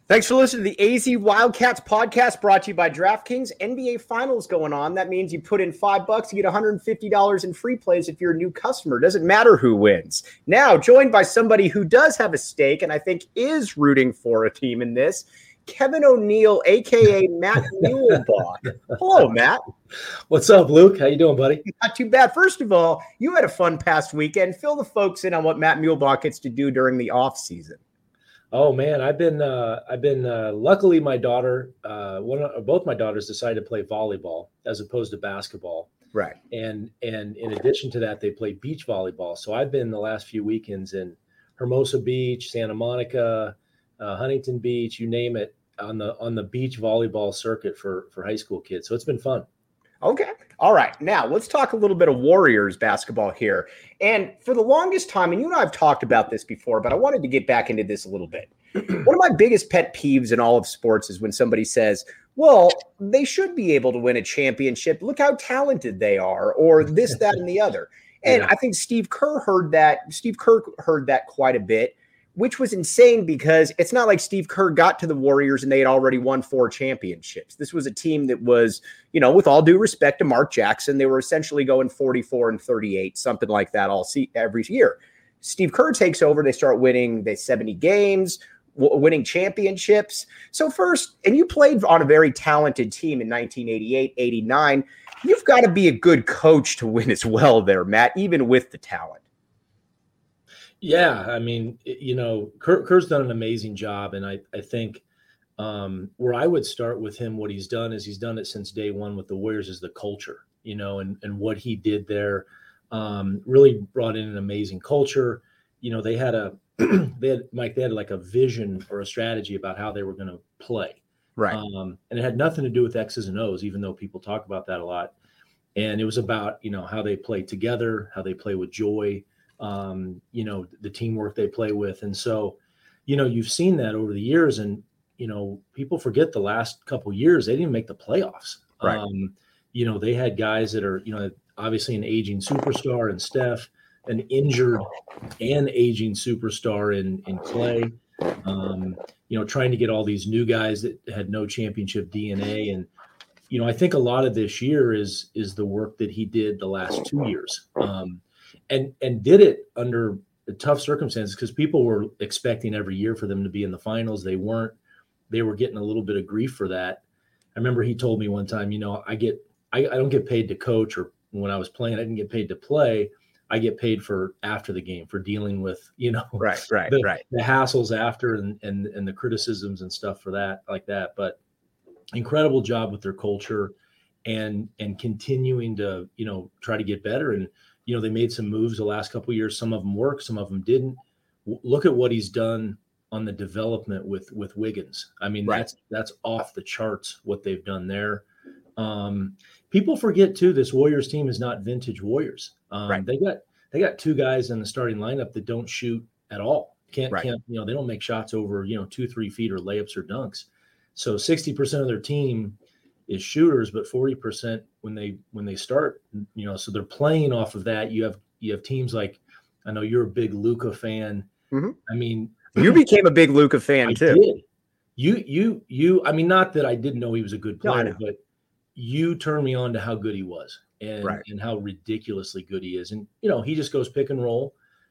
Thanks for listening to the AZ Wildcats podcast brought to you by DraftKings. NBA Finals going on. That means you put in $5, you get $150 in free plays if you're a new customer. Doesn't matter who wins. Now, joined by somebody who does have a stake and I think is rooting for a team in this, Kevin O'Neill, a.k.a. Matt Muehlbach. Hello, Matt. What's up, Luke? How you doing, buddy? Not too bad. First of all, you had a fun past weekend. Fill the folks in on what Matt Muehlbach gets to do during the off season. Oh man, I've been luckily my daughter, both my daughters decided to play volleyball as opposed to basketball. Right. And in addition to that, they play beach volleyball. So I've been the last few weekends in Hermosa Beach, Santa Monica, Huntington Beach, you name it, on the beach volleyball circuit for high school kids. So it's been fun. Okay. All right. Now let's talk a little bit of Warriors basketball here. And for the longest time, and you and I have talked about this before, but I wanted to get back into this a little bit. One of my biggest pet peeves in all of sports is when somebody says, well, they should be able to win a championship. Look how talented they are, or this, that, and the other. And I think Steve Kerr heard that quite a bit, which was insane because it's not like Steve Kerr got to the Warriors and they had already won 4 championships. This was a team that was, with all due respect to Mark Jackson, they were essentially going 44-38, something like that every year. Steve Kerr takes over. They start winning 70 games, winning championships. So first, and you played on a very talented team in 1988, 89. You've got to be a good coach to win as well there, Matt, even with the talent. Yeah, I mean, Kerr's done an amazing job, and I think where I would start with him, what he's done is he's done it since day one with the Warriors is the culture, and what he did there really brought in an amazing culture. They had like a vision or a strategy about how they were going to play, right? And it had nothing to do with X's and O's, even though people talk about that a lot. And it was about how they play together, how they play with joy. The teamwork they play with. And so, you've seen that over the years and, people forget the last couple of years, they didn't make the playoffs. Right. They had guys that are, obviously an aging superstar in Steph, an injured and aging superstar in Clay, trying to get all these new guys that had no championship DNA. And, I think a lot of this year is the work that he did the last 2 years. And did it under tough circumstances because people were expecting every year for them to be in the finals. They weren't. They were getting a little bit of grief for that. I remember he told me one time, I don't get paid to coach, or when I was playing, I didn't get paid to play. I get paid for after the game, for dealing with, the hassles after and the criticisms and stuff for that, like that. But incredible job with their culture and continuing to, try to get better. And they made some moves the last couple of years. Some of them worked, some of them didn't. Look at what he's done on the development with Wiggins. I mean, right. That's off the charts what they've done there. People forget too, this Warriors team is not vintage Warriors. Right. They got 2 guys in the starting lineup that don't shoot at all. Can't they don't make shots over 2-3 feet or layups or dunks. So 60% of their team is shooters, but 40% when they start, so they're playing off of that. You have teams like, I know you're a big Luka fan. Mm-hmm. I mean, you became a big Luka fan too. Did. You, I mean, not that I didn't know he was a good player, but you turned me on to how good he was and how ridiculously good he is. And, he just goes pick and roll.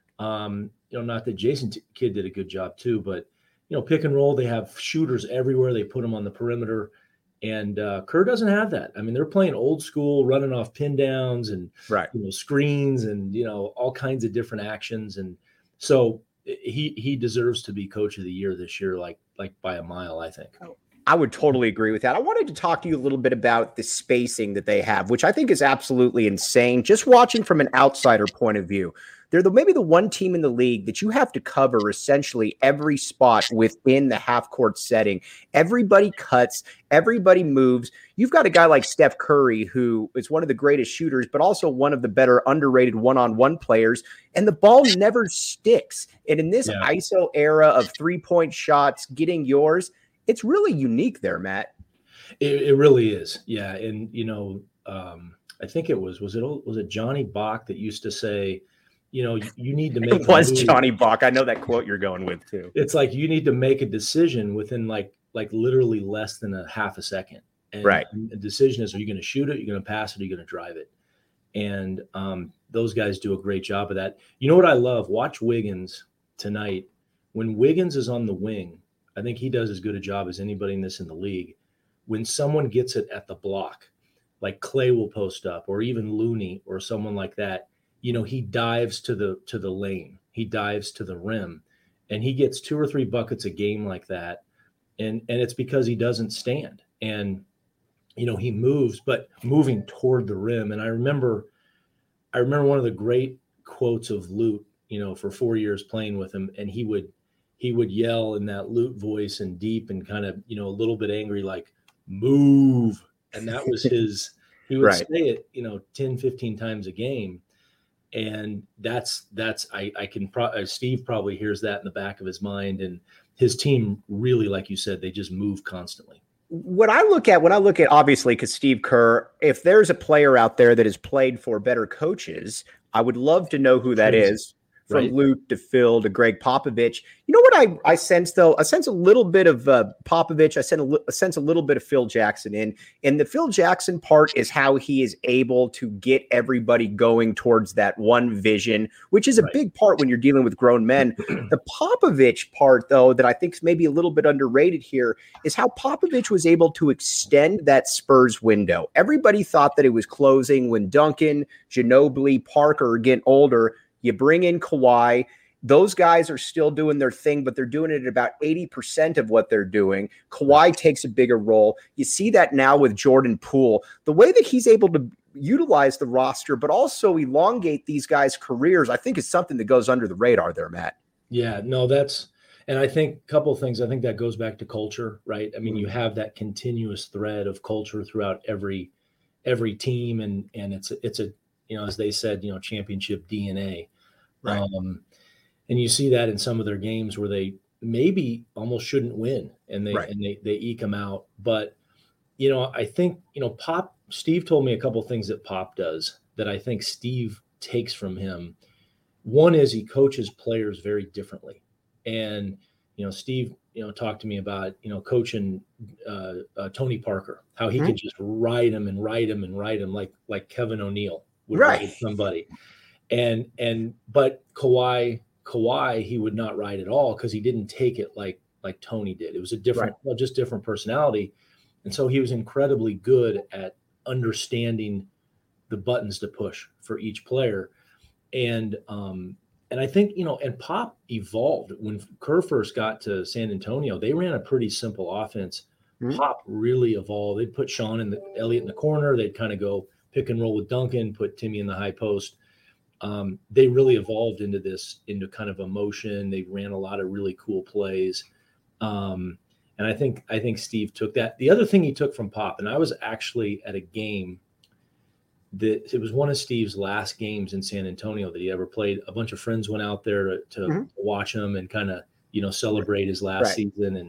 Not that Jason Kidd did a good job too, but, pick and roll, they have shooters everywhere. They put them on the perimeter. And Kerr doesn't have that. I mean, they're playing old school, running off pin downs and screens and all kinds of different actions. And so he deserves to be coach of the year this year, like by a mile, I think. I would totally agree with that. I wanted to talk to you a little bit about the spacing that they have, which I think is absolutely insane. Just watching from an outsider point of view, they're maybe the one team in the league that you have to cover essentially every spot within the half-court setting. Everybody cuts, everybody moves. You've got a guy like Steph Curry, who is one of the greatest shooters, but also one of the better underrated one-on-one players, and the ball never sticks. And in this ISO era of three-point shots, getting yours, it's really unique there, Matt. It really is. Yeah. And, I think it was it Johnny Bach that used to say, you need to make It was Johnny Buck. I know that quote you're going with too. It's like you need to make a decision within like literally less than a half a second. And right. The decision is, are you going to shoot it? Are you going to pass it? Are you going to drive it? And those guys do a great job of that. You know what I love? Watch Wiggins tonight. When Wiggins is on the wing, I think he does as good a job as anybody in the league. When someone gets it at the block, like Clay will post up, or even Looney or someone like that, he dives to the lane. He dives to the rim, and he gets 2 or 3 buckets a game like that. And it's because he doesn't stand. And he moves, but moving toward the rim. And I remember one of the great quotes of Lute, for 4 years playing with him. And he would yell in that Lute voice and deep and kind of, a little bit angry, like, move. And that was he would say it, 10, 15 times a game. And Steve probably hears that in the back of his mind. And his team really, like you said, they just move constantly. When I look at obviously, because Steve Kerr, if there's a player out there that has played for better coaches, I would love to know who that is. From Lute to Phil to Greg Popovich. You know what I sense, though? I sense a little bit of Popovich. I sense a little bit of Phil Jackson in. And the Phil Jackson part is how he is able to get everybody going towards that one vision, which is a big part when you're dealing with grown men. The Popovich part, though, that I think is maybe a little bit underrated here is how Popovich was able to extend that Spurs window. Everybody thought that it was closing when Duncan, Ginobili, Parker are getting older. You bring in Kawhi. Those guys are still doing their thing, but they're doing it at about 80% of what they're doing. Kawhi takes a bigger role. You see that now with Jordan Poole. The way that he's able to utilize the roster, but also elongate these guys' careers, I think is something that goes under the radar there, Matt. Yeah, no, and I think a couple of things. I think that goes back to culture, right? I mean, you have that continuous thread of culture throughout every team, and it's a as they said, championship DNA. Right. And you see that in some of their games where they maybe almost shouldn't win and they eke them out. But, I think, Steve told me a couple of things that Pop does that I think Steve takes from him. One is he coaches players very differently. And, Steve, talked to me about, coaching Tony Parker, how he could just ride him like Kevin O'Neal would ride somebody. But Kawhi, he would not ride at all because he didn't take it like Tony did. It was a different personality. And so he was incredibly good at understanding the buttons to push for each player. And I think, and Pop evolved. When Kerr first got to San Antonio, they ran a pretty simple offense. Pop really evolved. They'd put Sean and Elliott in the corner. They'd kind of go pick and roll with Duncan, put Timmy in the high post. They really evolved into kind of emotion. They ran a lot of really cool plays. And I think Steve took that. The other thing he took from Pop, and I was actually at a game that it was one of Steve's last games in San Antonio that he ever played. A bunch of friends went out there to watch him and kind of, celebrate his last season.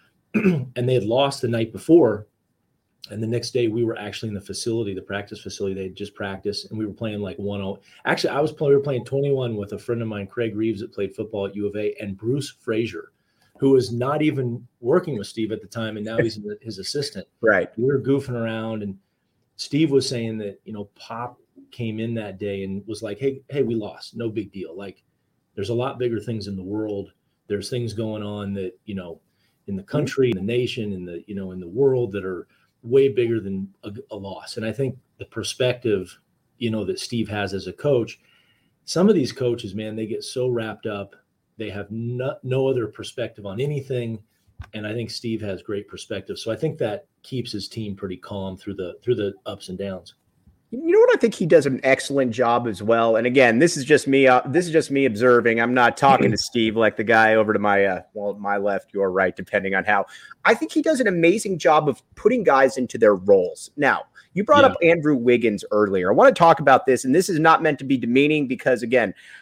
And they had lost the night before. And the next day we were actually in the practice facility. They had just practiced and we were playing like 1-0. Actually, we were playing 21 with a friend of mine, Craig Reeves, that played football at U of A, and Bruce Frazier, who was not even working with Steve at the time. And now he's his assistant. Right. We were goofing around, and Steve was saying that, Pop came in that day and was like, Hey, we lost. No big deal. Like, there's a lot bigger things in the world. There's things going on that, in the country, in the nation, in the world that are way bigger than a loss. And I think the perspective, that Steve has as a coach, some of these coaches, man, they get so wrapped up. They have no other perspective on anything. And I think Steve has great perspective. So I think that keeps his team pretty calm through the ups and downs. You know what? I think he does an excellent job as well. And again, this is just me observing. I'm not talking to Steve like the guy over to my my left, your right, depending on how. I think he does an amazing job of putting guys into their roles. Now, you brought up Andrew Wiggins earlier. I want to talk about this, and this is not meant to be demeaning because, again,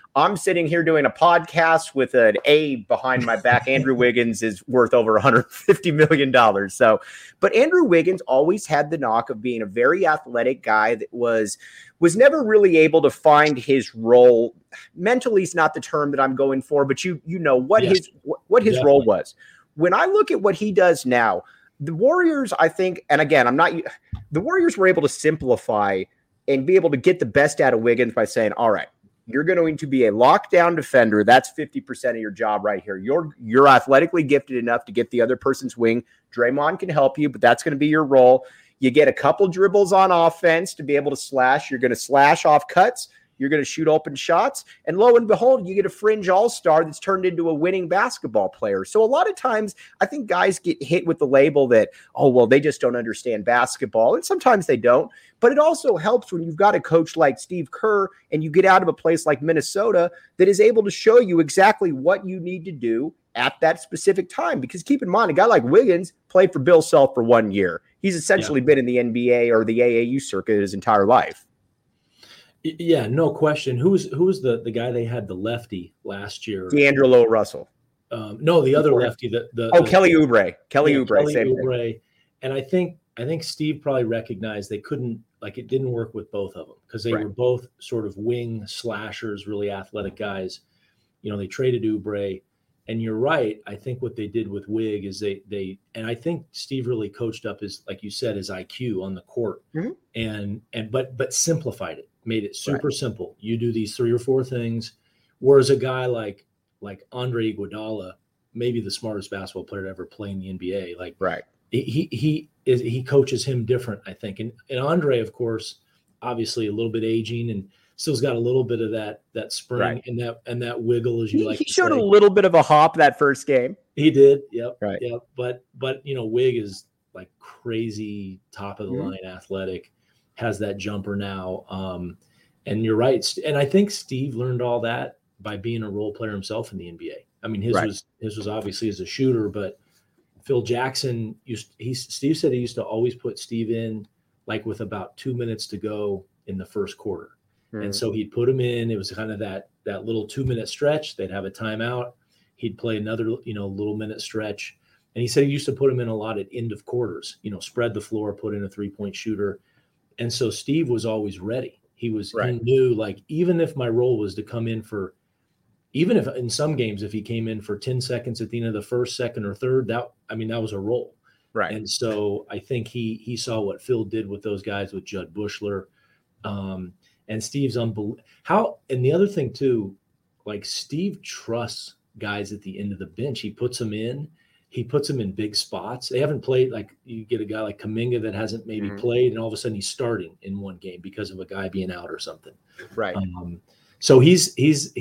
I'm sitting here doing a podcast with an A behind my back. Andrew Wiggins is worth over $150 million. So, but Andrew Wiggins always had the knock of being a very athletic guy that was never really able to find his role. Mentally is not the term that I'm going for, but you know what his role was. When I look at what he does now, the Warriors, I think, and again, the Warriors were able to simplify and be able to get the best out of Wiggins by saying, all right, you're going to be a lockdown defender. That's 50% of your job right here. You're athletically gifted enough to get the other person's wing. Draymond can help you, but that's going to be your role. You get a couple dribbles on offense to be able to slash. You're going to slash off cuts. You're going to shoot open shots. And lo and behold, you get a fringe all-star that's turned into a winning basketball player. So a lot of times I think guys get hit with the label that, oh, well, they just don't understand basketball. And sometimes they don't. But it also helps when you've got a coach like Steve Kerr and you get out of a place like Minnesota that is able to show you exactly what you need to do at that specific time. Because keep in mind, a guy like Wiggins played for Bill Self for 1 year. He's essentially been in the NBA or the AAU circuit his entire life. Yeah, no question. Who's the guy they had, the lefty last year? D'Angelo Russell. No, the other lefty. Kelly Oubre. Kelly Oubre. And I think Steve probably recognized they couldn't, like, it didn't work with both of them because they were both sort of wing slashers, really athletic guys. You know, they traded Oubre. And you're right. I think what they did with Wig is they and I think Steve really coached up his, like you said, his IQ on the court, but simplified it, made it super simple. You do these 3 or 4 things, whereas a guy like Andre Iguodala, maybe the smartest basketball player to ever play in the NBA, he coaches him different, I think. And Andre, of course, obviously a little bit aging and still's got a little bit of that spring and that wiggle, as you like. He showed a little bit of a hop that first game. He did. Yep. Right. Yep. But you know, Wig is like crazy, top of the line, athletic, has that jumper now. And you're right. And I think Steve learned all that by being a role player himself in the NBA. I mean, his was obviously as a shooter, but Phil Jackson Steve said he used to always put Steve in like with about 2 minutes to go in the first quarter. And so he'd put him in. It was kind of that little 2-minute stretch. They'd have a timeout. He'd play another, little minute stretch. And he said he used to put him in a lot at end of quarters, spread the floor, put in a 3-point shooter. And so Steve was always ready. He knew, like, even if my role was to come in for, even if in some games, if he came in for 10 seconds at the end of the first, second, or third, that was a role. Right. And so I think he saw what Phil did with those guys, with Judd Bushler. And Steve's unbelievable. And the other thing too, like, Steve trusts guys at the end of the bench. He puts them in big spots. They haven't played, like, you get a guy like Kuminga that hasn't maybe played, and all of a sudden he's starting in one game because of a guy being out or something. Right. So he's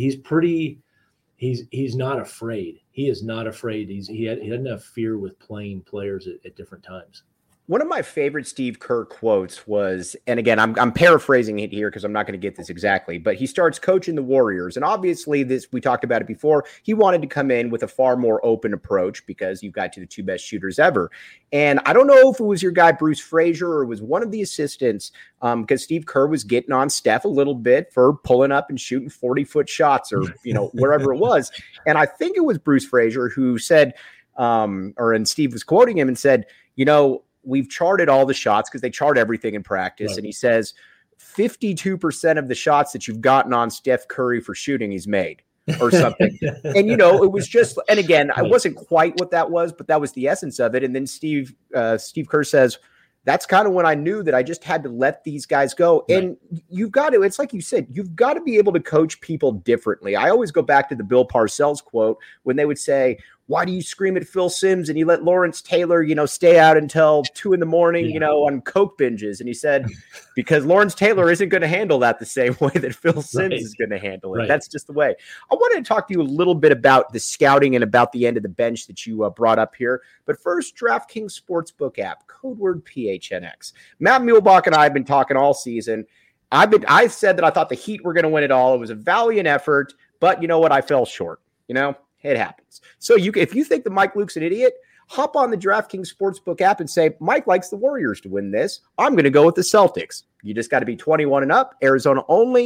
not afraid. He is not afraid. He doesn't have fear with playing players at different times. One of my favorite Steve Kerr quotes was, and again, I'm paraphrasing it here because I'm not going to get this exactly, but he starts coaching the Warriors. And obviously we talked about it before. He wanted to come in with a far more open approach because you've got the 2 best shooters ever. And I don't know if it was your guy, Bruce Frazier, or it was one of the assistants, because Steve Kerr was getting on Steph a little bit for pulling up and shooting 40-foot shots or, wherever it was. And I think it was Bruce Frazier who said, and Steve was quoting him and said, we've charted all the shots because they chart everything in practice. Right. And he says 52% of the shots that you've gotten on Steph Curry for shooting, he's made or something. And, it was just, and again, I wasn't quite what that was, but that was the essence of it. And then Steve Kerr says, that's kind of when I knew that I just had to let these guys go. Right. And you've got to, it's like you said, you've got to be able to coach people differently. I always go back to the Bill Parcells quote when they would say, why do you scream at Phil Simms and you let Lawrence Taylor, stay out until 2 a.m, on coke binges? And he said, because Lawrence Taylor isn't going to handle that the same way that Phil Simms is going to handle it. Right. That's just the way. I wanted to talk to you a little bit about the scouting and about the end of the bench that you brought up here. But first, DraftKings Sportsbook app, code word PHNX. Matt Muehlbach and I have been talking all season. I said that I thought the Heat were going to win it all. It was a valiant effort, but you know what? I fell short. It happens. So if you think that Mike Luke's an idiot, hop on the DraftKings Sportsbook app and say, Mike likes the Warriors to win this. I'm going to go with the Celtics. You just got to be 21 and up, Arizona only,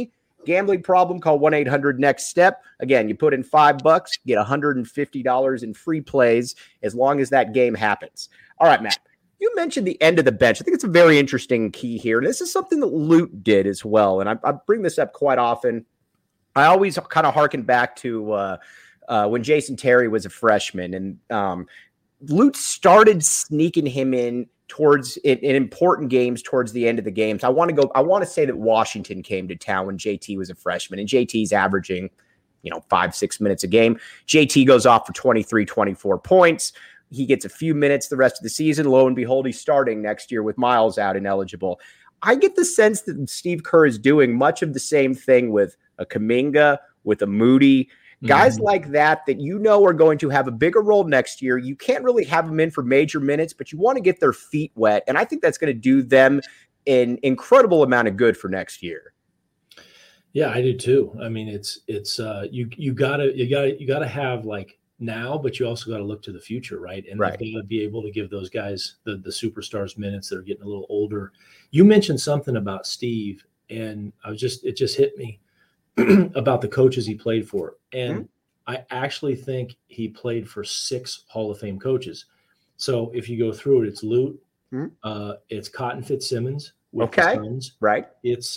Gambling problem, call 1-800-NEXT-STEP. Again, you put in $5, get $150 in free plays as long as that game happens. All right, Matt. You mentioned the end of the bench. I think it's a very interesting key here. And this is something that Lute did as well. And I bring this up quite often. I always kind of harken back to when Jason Terry was a freshman. And Lute started sneaking him in in important games towards the end of the games. I want to say that Washington came to town when JT was a freshman, and JT's averaging, 5-6 minutes a game. JT goes off for 23, 24 points. He gets a few minutes the rest of the season. Lo and behold, he's starting next year with Miles out and eligible. I get the sense that Steve Kerr is doing much of the same thing with a Kuminga, with a Moody, guys like that are going to have a bigger role next year. You can't really have them in for major minutes, but you want to get their feet wet. And I think that's going to do them an incredible amount of good for next year. Yeah, I do too. I mean, it's you gotta have like now, but you also got to look to the future, right? And they've got to be able to give those guys the superstars minutes that are getting a little older. You mentioned something about Steve, and it just hit me about the coaches he played for. And I actually think he played for 6 Hall of Fame coaches. So if you go through it, it's Lute, it's Cotton Fitzsimmons with the Suns. Right. It's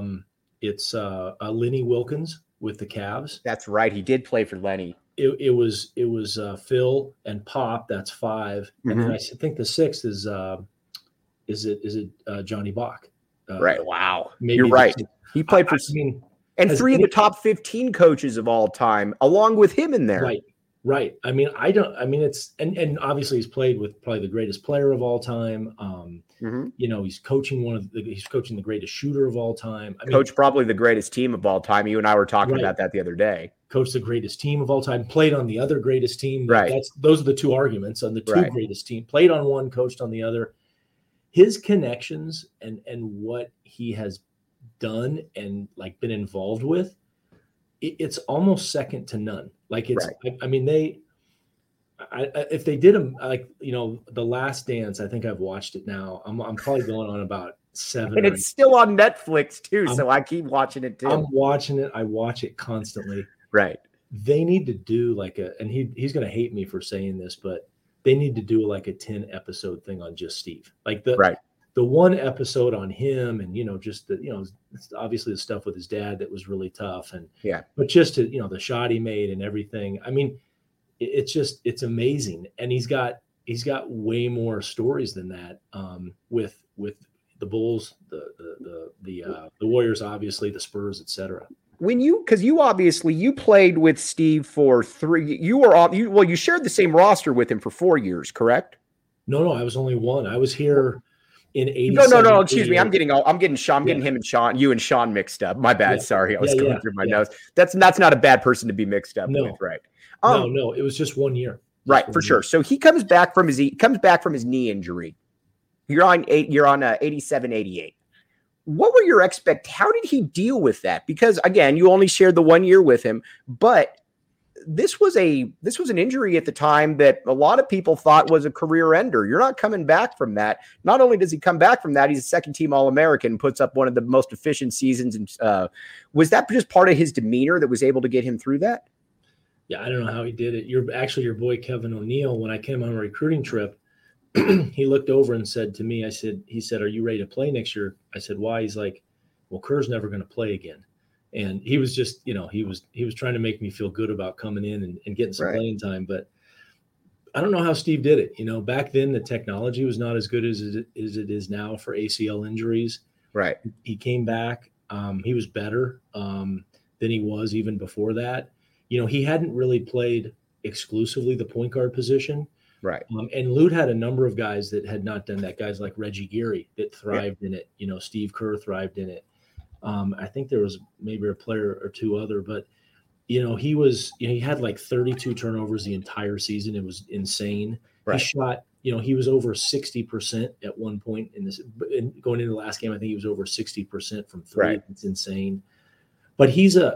Lenny Wilkins with the Cavs. That's right. He did play for Lenny. It was Phil and Pop. That's 5. And then I think the 6th is Johnny Bach. Right. Wow. You're right. He played for, and 3 of the top 15 coaches of all time, along with him in there. Right. I mean, it's, and obviously he's played with probably the greatest player of all time. He's coaching he's coaching the greatest shooter of all time. Coach probably the greatest team of all time. You and I were talking about that the other day. Coach the greatest team of all time, played on the other greatest team. Right. Those are the 2 arguments on the 2 greatest team. Played on one, coached on the other. His connections and what he has done and like been involved with, it's almost second to none. Like it's, I mean, if they did them like, The Last Dance, I think I've watched it now. I'm probably going on about 7. And it's still on Netflix too. So I keep watching it too. I'm watching it. I watch it constantly. Right. They need to do like and he's going to hate me for saying this, but they need to do like a 10 episode thing on just Steve. Like the one episode on him and, just it's obviously the stuff with his dad that was really tough. And but just to, the shot he made and everything. I mean, it's amazing. And he's got way more stories than that with the Bulls, the Warriors, obviously the Spurs, etc. Because you played with Steve for 3, you shared the same roster with him for 4 years, correct? No, I was only 1. I was here in 87. No, excuse me. I'm getting him and Sean, you and Sean mixed up. My bad. Sorry. I was going through my notes. That's not a bad person to be mixed up with, right? No, it was just 1 year. Right, for sure. So he comes back from his knee injury. You're on 87, 88. What were your how did he deal with that? Because again, you only shared the 1 year with him, but this was an injury at the time that a lot of people thought was a career ender. You're not coming back from that. Not only does he come back from that, he's a second-team All-American, puts up one of the most efficient seasons. And was that just part of his demeanor that was able to get him through that? Yeah, I don't know how he did it. Your boy Kevin O'Neill, when I came on a recruiting trip, he looked over and said to me, he said, "Are you ready to play next year?" I said, "Why?" He's like, "Well, Kerr's never going to play again." And he was just, he was trying to make me feel good about coming in and getting some playing time. But I don't know how Steve did it. Back then the technology was not as good as it is now for ACL injuries. Right. He came back. He was better than he was even before that. He hadn't really played exclusively the point guard position. Right. And Lute had a number of guys that had not done that. Guys like Reggie Geary that thrived in it. Steve Kerr thrived in it. I think there was maybe a player or 2 other, but he had like 32 turnovers the entire season. It was insane. Right. He shot, he was over 60% at one point going into the last game. I think he was over 60% from 3. Right. It's insane. But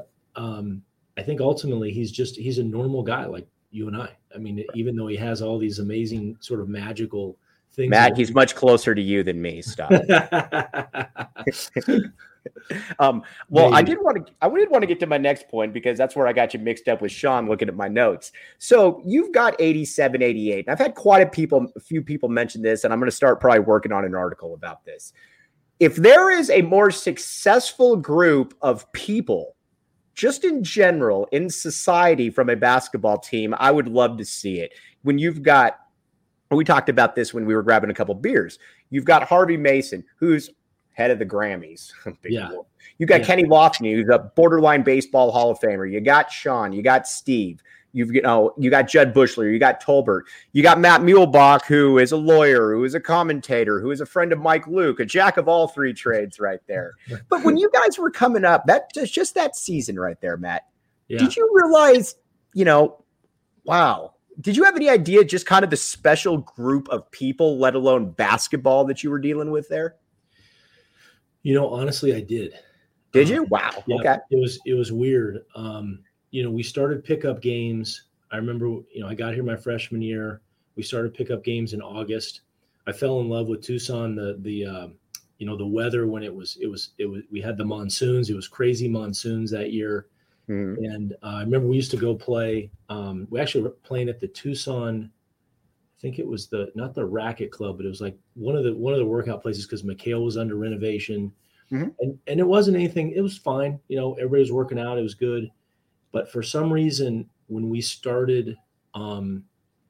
I think ultimately he's a normal guy like you and I. I mean, even though he has all these amazing sort of magical things. Matt, he's much closer to you than me. Stop. Well, I Maybe. did want to get to my next point because that's where I got you mixed up with Sean looking at my notes. So you've got 87, 88. And I've had quite a few people mention this, and I'm going to start probably working on an article about this. If there is a more successful group of people, just in general, in society from a basketball team, I would love to see it. When you've got, we talked about this when we were grabbing a couple beers. You've got Harvey Mason, who's head of the Grammys. Yeah. You got Kenny Lofton, who's a borderline baseball Hall of Famer. You got Sean. You got Steve. You got Judd Bushler. You got Tolbert. You got Matt Muehlbach, who is a lawyer, who is a commentator, who is a friend of Mike Luke, a jack of all three trades right there. But when you guys were coming up, just that season right there, Matt, did you realize, wow, did you have any idea just kind of the special group of people, let alone basketball, that you were dealing with there? Honestly, I did. Did you? Wow. Yeah, okay. It was weird. We started pickup games. I remember, I got here my freshman year. We started pickup games in August. I fell in love with Tucson. The weather when it was we had the monsoons. It was crazy monsoons that year. Mm-hmm. And I remember we used to go play. We actually were playing at the Tucson. I think it was not the Racket Club, but it was like one of the workout places because McHale was under renovation. Mm-hmm. And it wasn't anything. It was fine. Everybody was working out. It was good. But for some reason, when we started, and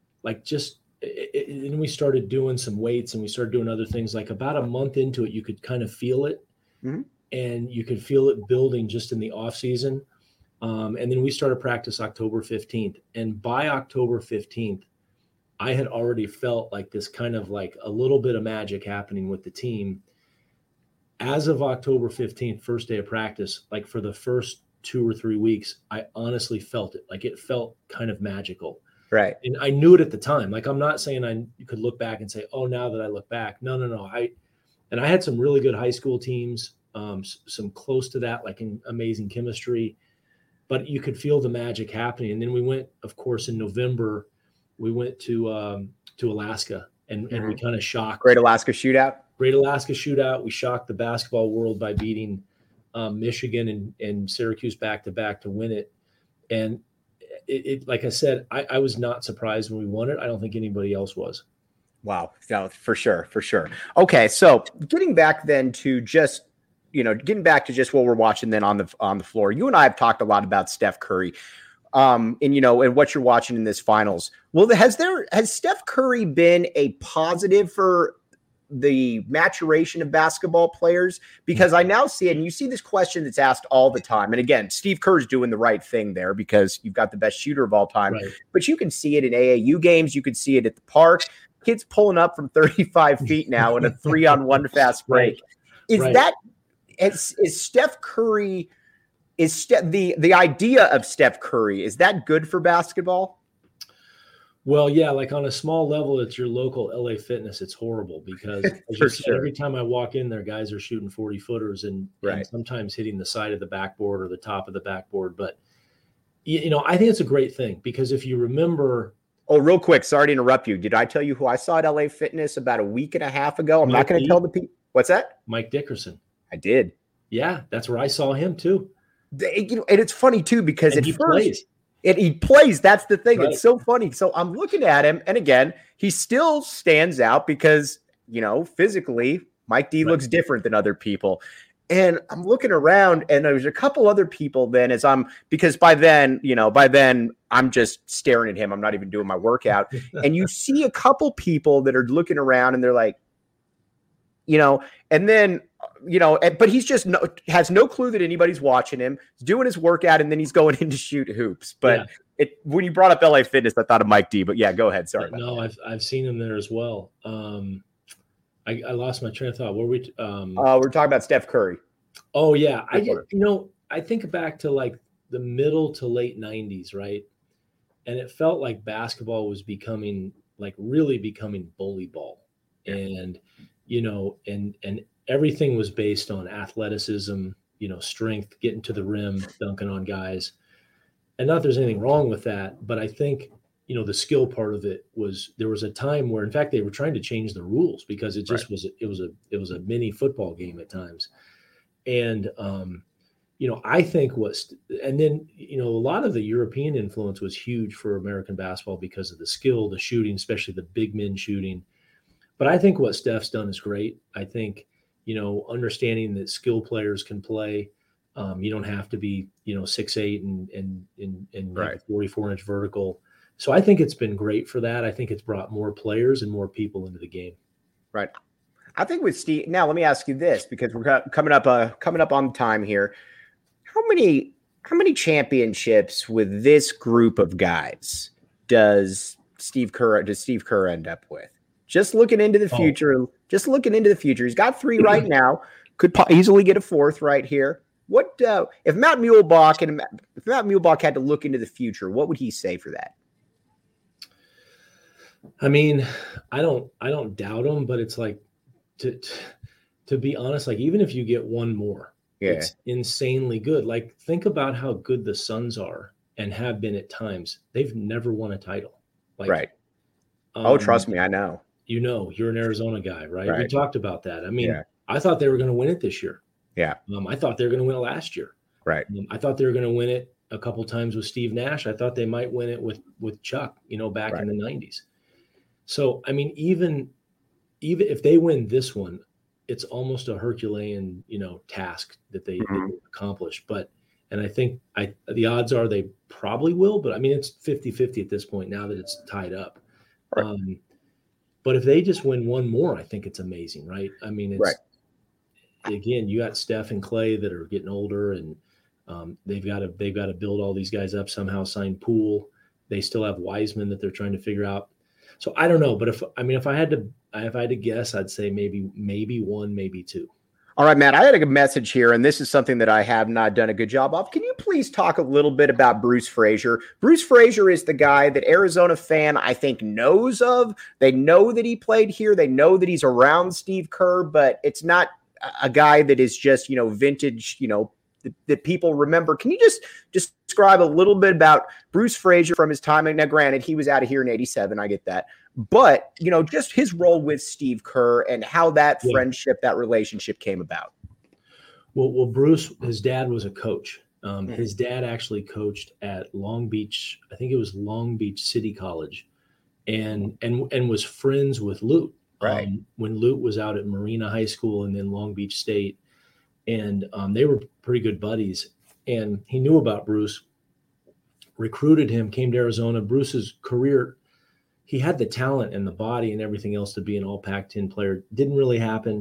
we started doing some weights and we started doing other things, like about a month into it, you could kind of feel it. Mm-hmm. And you could feel it building just in the off season. And then we started practice October 15th. And by October 15th, I had already felt like this kind of like a little bit of magic happening with the team. As of October 15th, first day of practice, like for the first 2 or 3 weeks, I honestly felt it. Like it felt kind of magical. Right. And I knew it at the time. Like, I'm not saying I could look back and say, oh, now that I look back. No. I had some really good high school teams, some close to that, like in amazing chemistry, but you could feel the magic happening. And then we went, of course, in November, we went to Alaska and we kind of shocked. Great Alaska Shootout. We shocked the basketball world by beating Michigan and Syracuse back to back to win it. And it like I said, I was not surprised when we won it. I don't think anybody else was. Wow. No, for sure. Okay. So getting back to just what we're watching then on the floor, you and I have talked a lot about Steph Curry. And what you're watching in this finals. Well, has Steph Curry been a positive for the maturation of basketball players? Because I now see it, and you see this question that's asked all the time. And again, Steve Kerr's doing the right thing there because you've got the best shooter of all time. Right. But you can see it in AAU games. You can see it at the park. Kids pulling up from 35 feet now in a 3-on-1 fast break. Right. Is Steph Curry? The idea of Steph Curry, is that good for basketball? Well, yeah, like on a small level, it's your local LA Fitness. It's horrible because every time I walk in there, guys are shooting 40-footers and sometimes hitting the side of the backboard or the top of the backboard. But, I think it's a great thing because if you remember. Oh, real quick, sorry to interrupt you. Did I tell you who I saw at LA Fitness about a week and a half ago? I'm not going to tell the people. What's that? Mike Dickerson. I did. Yeah, that's where I saw him too. And it's funny too because he plays. That's the thing. Right. It's so funny. So I'm looking at him, and again, he still stands out because physically, Mike D looks different than other people. And I'm looking around, and there's a couple other people. Then because by then I'm just staring at him. I'm not even doing my workout, and you see a couple people that are looking around, and they're like, and then. But he's just has no clue that anybody's watching him. He's doing his workout, and then he's going in to shoot hoops. But when you brought up LA Fitness, I thought of Mike D. But yeah, go ahead. Sorry. No, I've seen him there as well. I lost my train of thought. What were we? We're talking about Steph Curry. Oh yeah, I think back to like the middle to late '90s, right? And it felt like basketball was really becoming bully ball, and and everything was based on athleticism, strength, getting to the rim, dunking on guys. And not that there's anything wrong with that, but I think, the skill part of it there was a time where, in fact, they were trying to change the rules because it just was a mini football game at times. And, I think and then, a lot of the European influence was huge for American basketball because of the skill, the shooting, especially the big men shooting. But I think what Steph's done is great. I think, understanding that skill players can play. You don't have to be, 6'8" and Right. 44-inch vertical. So I think it's been great for that. I think it's brought more players and more people into the game. Right. I think with Steve. Now, let me ask you this, because we're coming up on time here. How many championships with this group of guys does Steve Kerr end up with? Just looking into the future. He's got 3 right now. Could easily get a 4th right here. What if Matt Muehlbach had to look into the future? What would he say for that? I mean, I don't doubt him, but it's like, to be honest, like, even if you get one more, it's insanely good. Like, think about how good the Suns are and have been at times. They've never won a title. Like, right. Trust me, I know. You're an Arizona guy, right? We talked about that. I mean, I thought they were going to win it this year. Yeah. I thought they were going to win it last year. Right. I thought they were going to win it a couple times with Steve Nash. I thought they might win it with Chuck, back in the 90s. So, I mean, even if they win this one, it's almost a Herculean, task that they accomplish. And I think the odds are they probably will, but I mean, it's 50-50 at this point now that it's tied up. Right. But if they just win one more, I think it's amazing, right? I mean, it's again, you got Steph and Clay that are getting older, and they've got to build all these guys up somehow. Sign Poole. They still have Wiseman that they're trying to figure out. So I don't know, but if I had to guess, I'd say maybe 1, maybe 2. All right, Matt, I had a message here, and this is something that I have not done a good job of. Can you please talk a little bit about Bruce Frazier? Bruce Frazier is the guy that Arizona fan, I think, knows of. They know that he played here. They know that he's around Steve Kerr, but it's not a guy that is just, vintage, that people remember. Can you just describe a little bit about Bruce Frazier from his time? Now, granted, he was out of here in 87. I get that. But, just his role with Steve Kerr and how that friendship, that relationship came about. Well, Bruce, his dad was a coach. His dad actually coached at Long Beach. I think it was Long Beach City College, and was friends with Lute. Right. When Lute was out at Marina High School and then Long Beach State. And they were pretty good buddies. And he knew about Bruce, recruited him, came to Arizona. Bruce's career, he had the talent and the body and everything else to be an all Pac-10 player. Didn't really happen.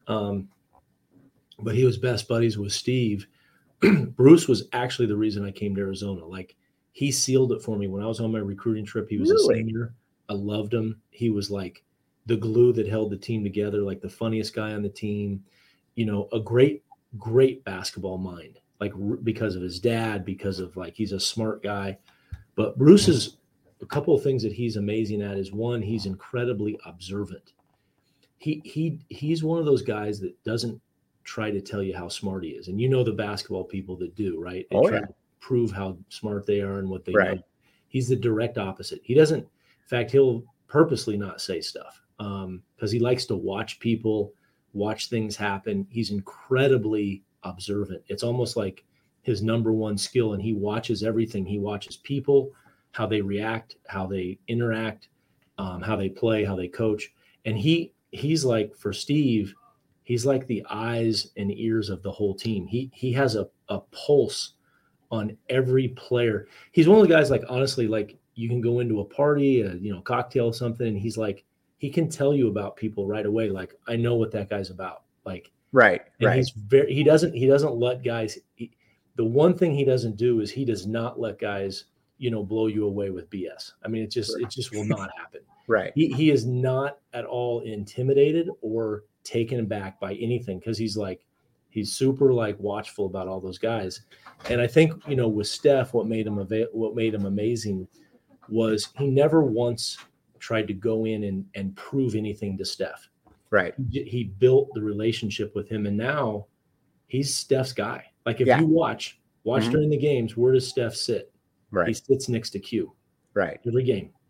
But he was best buddies with Steve. Bruce was actually the reason I came to Arizona. Like, he sealed it for me. When I was on my recruiting trip, he was a senior. I loved him. He was like the glue that held the team together, like the funniest guy on the team, a great basketball mind, like, because of his dad, because of, like, he's a smart guy. But Bruce is a couple of things that he's amazing at is, one, he's incredibly observant. He's one of those guys that doesn't try to tell you how smart he is. And the basketball people that do, right? They try to prove how smart they are and what they know. He's the direct opposite. He doesn't, in fact, he'll purposely not say stuff because he likes to watch people, watch things happen. He's incredibly observant. It's almost like his number one skill, and he watches everything. He watches people, how they react, how they interact, how they play, how they coach. And he's like, for Steve, he's like the eyes and ears of the whole team. He has a pulse on every player. He's one of the guys, like, honestly, like, you can go into a party, a cocktail or something, and he's like, he can tell you about people right away. Like, I know what that guy's about. Like, He's he doesn't let guys. The one thing he doesn't do is he does not let guys, blow you away with BS. I mean, it just will not happen. Right. He is not at all intimidated or taken aback by anything, because he's super, like, watchful about all those guys. And I think, with Steph, what made him amazing was he never once tried to go in and prove anything to Steph. Right. He built the relationship with him, and now he's Steph's guy. Like, if you watch during the games, where does Steph sit? Right. He sits next to Q. Right. Every game.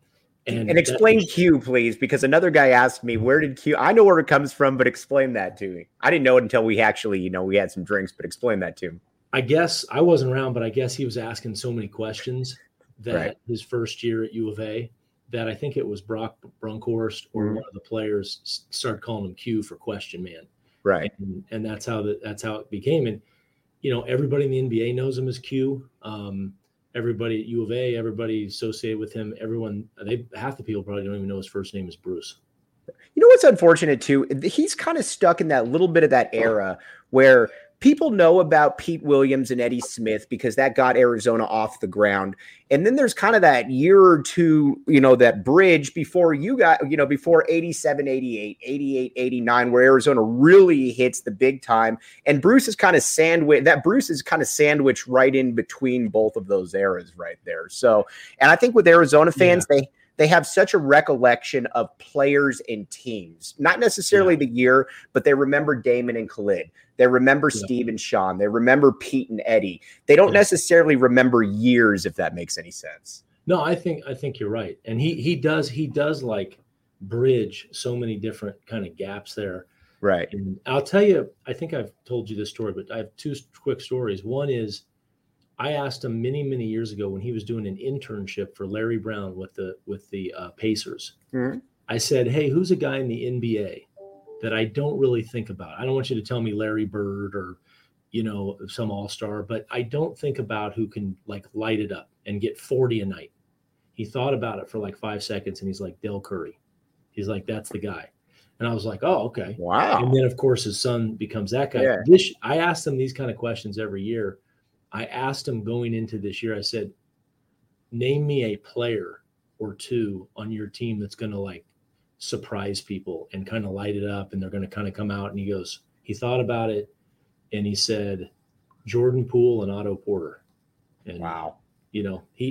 And explain Q, please, because another guy asked me, where did Q? I know where it comes from, but explain that to me. I didn't know it until we actually, we had some drinks, but explain that to him. I guess I wasn't around, but I guess he was asking so many questions that Right. his first year at U of A that I think it was Brock Brunkhorst or one of the players started calling him Q for Question Man. Right. And that's how it became. And, everybody in the NBA knows him as Q. Everybody at U of A, everybody associated with him, half the people probably don't even know his first name is Bruce. You know what's unfortunate too? He's kind of stuck in that little bit of that era where people know about Pete Williams and Eddie Smith because that got Arizona off the ground. And then there's kind of that year or two, that bridge before before 87, 88, 88, 89, where Arizona really hits the big time. And Bruce is kind of sandwiched right in between both of those eras right there. So, and I think with Arizona fans, they have such a recollection of players and teams, not necessarily the year, but they remember Damon and Khalid. They remember Steve and Sean. They remember Pete and Eddie. They don't necessarily remember years, if that makes any sense. No, I think you're right. And he does like bridge so many different kind of gaps there. Right. And I'll tell you, I think I've told you this story, but I have two quick stories. One is I asked him many, many years ago when he was doing an internship for Larry Brown with the Pacers. Mm-hmm. I said, hey, who's a guy in the NBA that I don't really think about? I don't want you to tell me Larry Bird or, some all-star, but I don't think about who can light it up and get 40 a night. He thought about it for 5 seconds and he's like, Del Curry. He's like, that's the guy. And I was like, oh, okay. Wow. And then of course his son becomes that guy. Yeah. I asked him these kind of questions every year. I asked him going into this year, I said, name me a player or two on your team that's going to surprise people and kind of light it up. And they're going to kind of come out. And he thought about it. And he said, Jordan Poole and Otto Porter. And, wow. He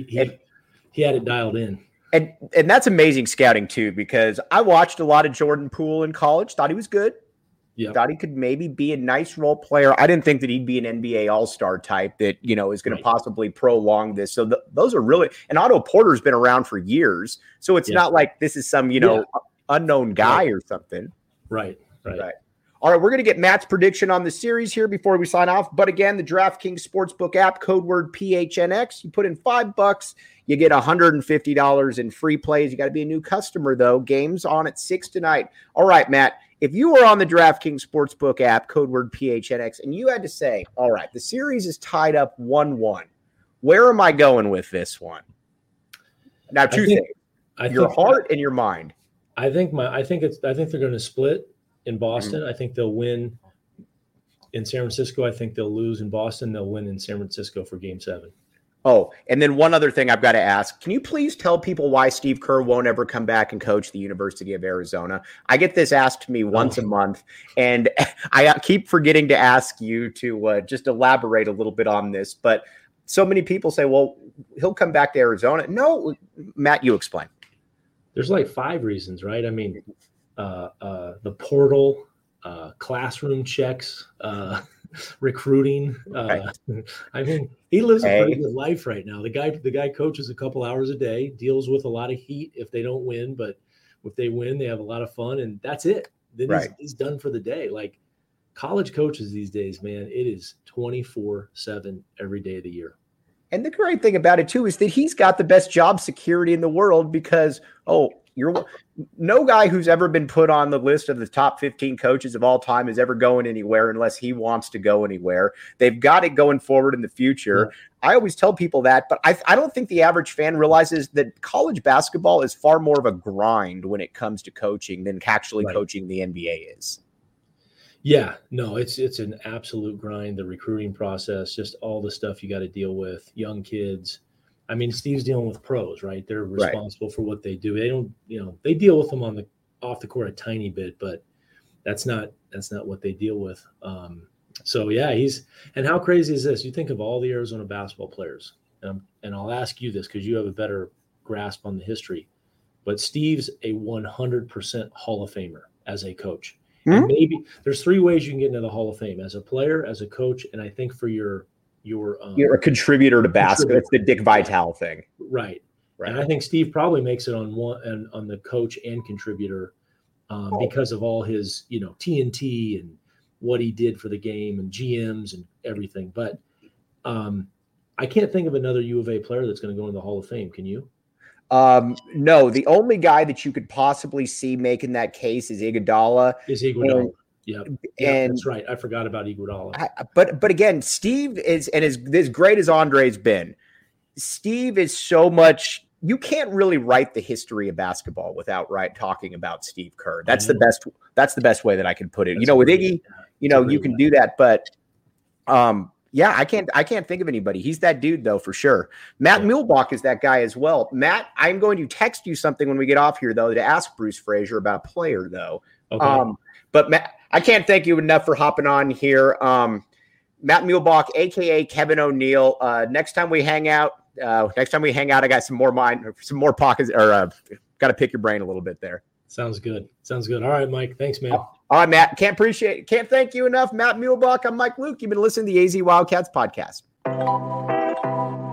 had it dialed in. And that's amazing scouting too, because I watched a lot of Jordan Poole in college, thought he was good. Yep. Thought he could maybe be a nice role player. I didn't think that he'd be an NBA all-star type that, is going to possibly prolong this. So those are really – and Otto Porter's been around for years. So it's not like this is some, unknown guy or something. Right. All right, we're going to get Matt's prediction on the series here before we sign off. But again, the DraftKings Sportsbook app, code word PHNX. You put in $5, you get $150 in free plays. You got to be a new customer, though. Games on at 6 tonight. All right, Matt. If you were on the DraftKings Sportsbook app, code word PHNX, and you had to say, all right, the series is tied up 1-1. Where am I going with this one? Now, two things. Your heart and your mind. I think they're going to split in Boston. I think they'll win in San Francisco. I think they'll lose in Boston. They'll win in San Francisco for Game 7. Oh, and then one other thing I've got to ask. Can you please tell people why Steve Kerr won't ever come back and coach the University of Arizona? I get this asked to me once a month, and I keep forgetting to ask you to just elaborate a little bit on this. But so many people say, well, he'll come back to Arizona. No, Matt, you explain. There's 5 reasons, right? I mean, the portal, classroom checks, recruiting. I mean, he lives a pretty good life right now. The guy coaches a couple hours a day, deals with a lot of heat if they don't win, but if they win, they have a lot of fun, and that's it. Then he's done for the day. College coaches these days, man, it is 24/7 every day of the year. And the great thing about it too is that he's got the best job security in the world because no guy who's ever been put on the list of the top 15 coaches of all time is ever going anywhere unless he wants to go anywhere. They've got it going forward in the future. Yeah. I always tell people that, but I don't think the average fan realizes that college basketball is far more of a grind when it comes to coaching than actually coaching the NBA is. Yeah, no, it's an absolute grind. The recruiting process, just all the stuff you got to deal with, young kids. I mean, Steve's dealing with pros, right? They're responsible for what they do. They don't, they deal with them off the court a tiny bit, but that's not what they deal with. So yeah, and how crazy is this? You think of all the Arizona basketball players, and I'll ask you this because you have a better grasp on the history, but Steve's a 100% Hall of Famer as a coach. Mm-hmm. And maybe there's 3 ways you can get into the Hall of Fame: as a player, as a coach, and I think for you're a contributor to basketball. It's the Dick Vitale thing. Right. And I think Steve probably makes it on the coach and contributor because of all his, TNT and what he did for the game and GMs and everything. But I can't think of another U of A player that's going to go in the Hall of Fame. Can you? No, the only guy that you could possibly see making that case is Iguodala. Yeah, that's right. I forgot about Iguodala. But again, Steve is, and as great as Andre's been, Steve is so much. You can't really write the history of basketball without talking about Steve Kerr. That's the best. That's the best way that I can put it. With Iggy, you can do that, but yeah, I can't think of anybody. He's that dude though, for sure. Matt Muehlbach is that guy as well. Matt, I'm going to text you something when we get off here though to ask Bruce Frazier about a player though. Okay. But Matt, I can't thank you enough for hopping on here. Matt Muehlbach, aka Kevin O'Neill. Next time we hang out, I got some more pockets, or got to pick your brain a little bit there. Sounds good. All right, Mike. Thanks, man. All right, Matt. Can't thank you enough. Matt Muehlbach. I'm Mike Luke. You've been listening to the AZ Wildcats podcast.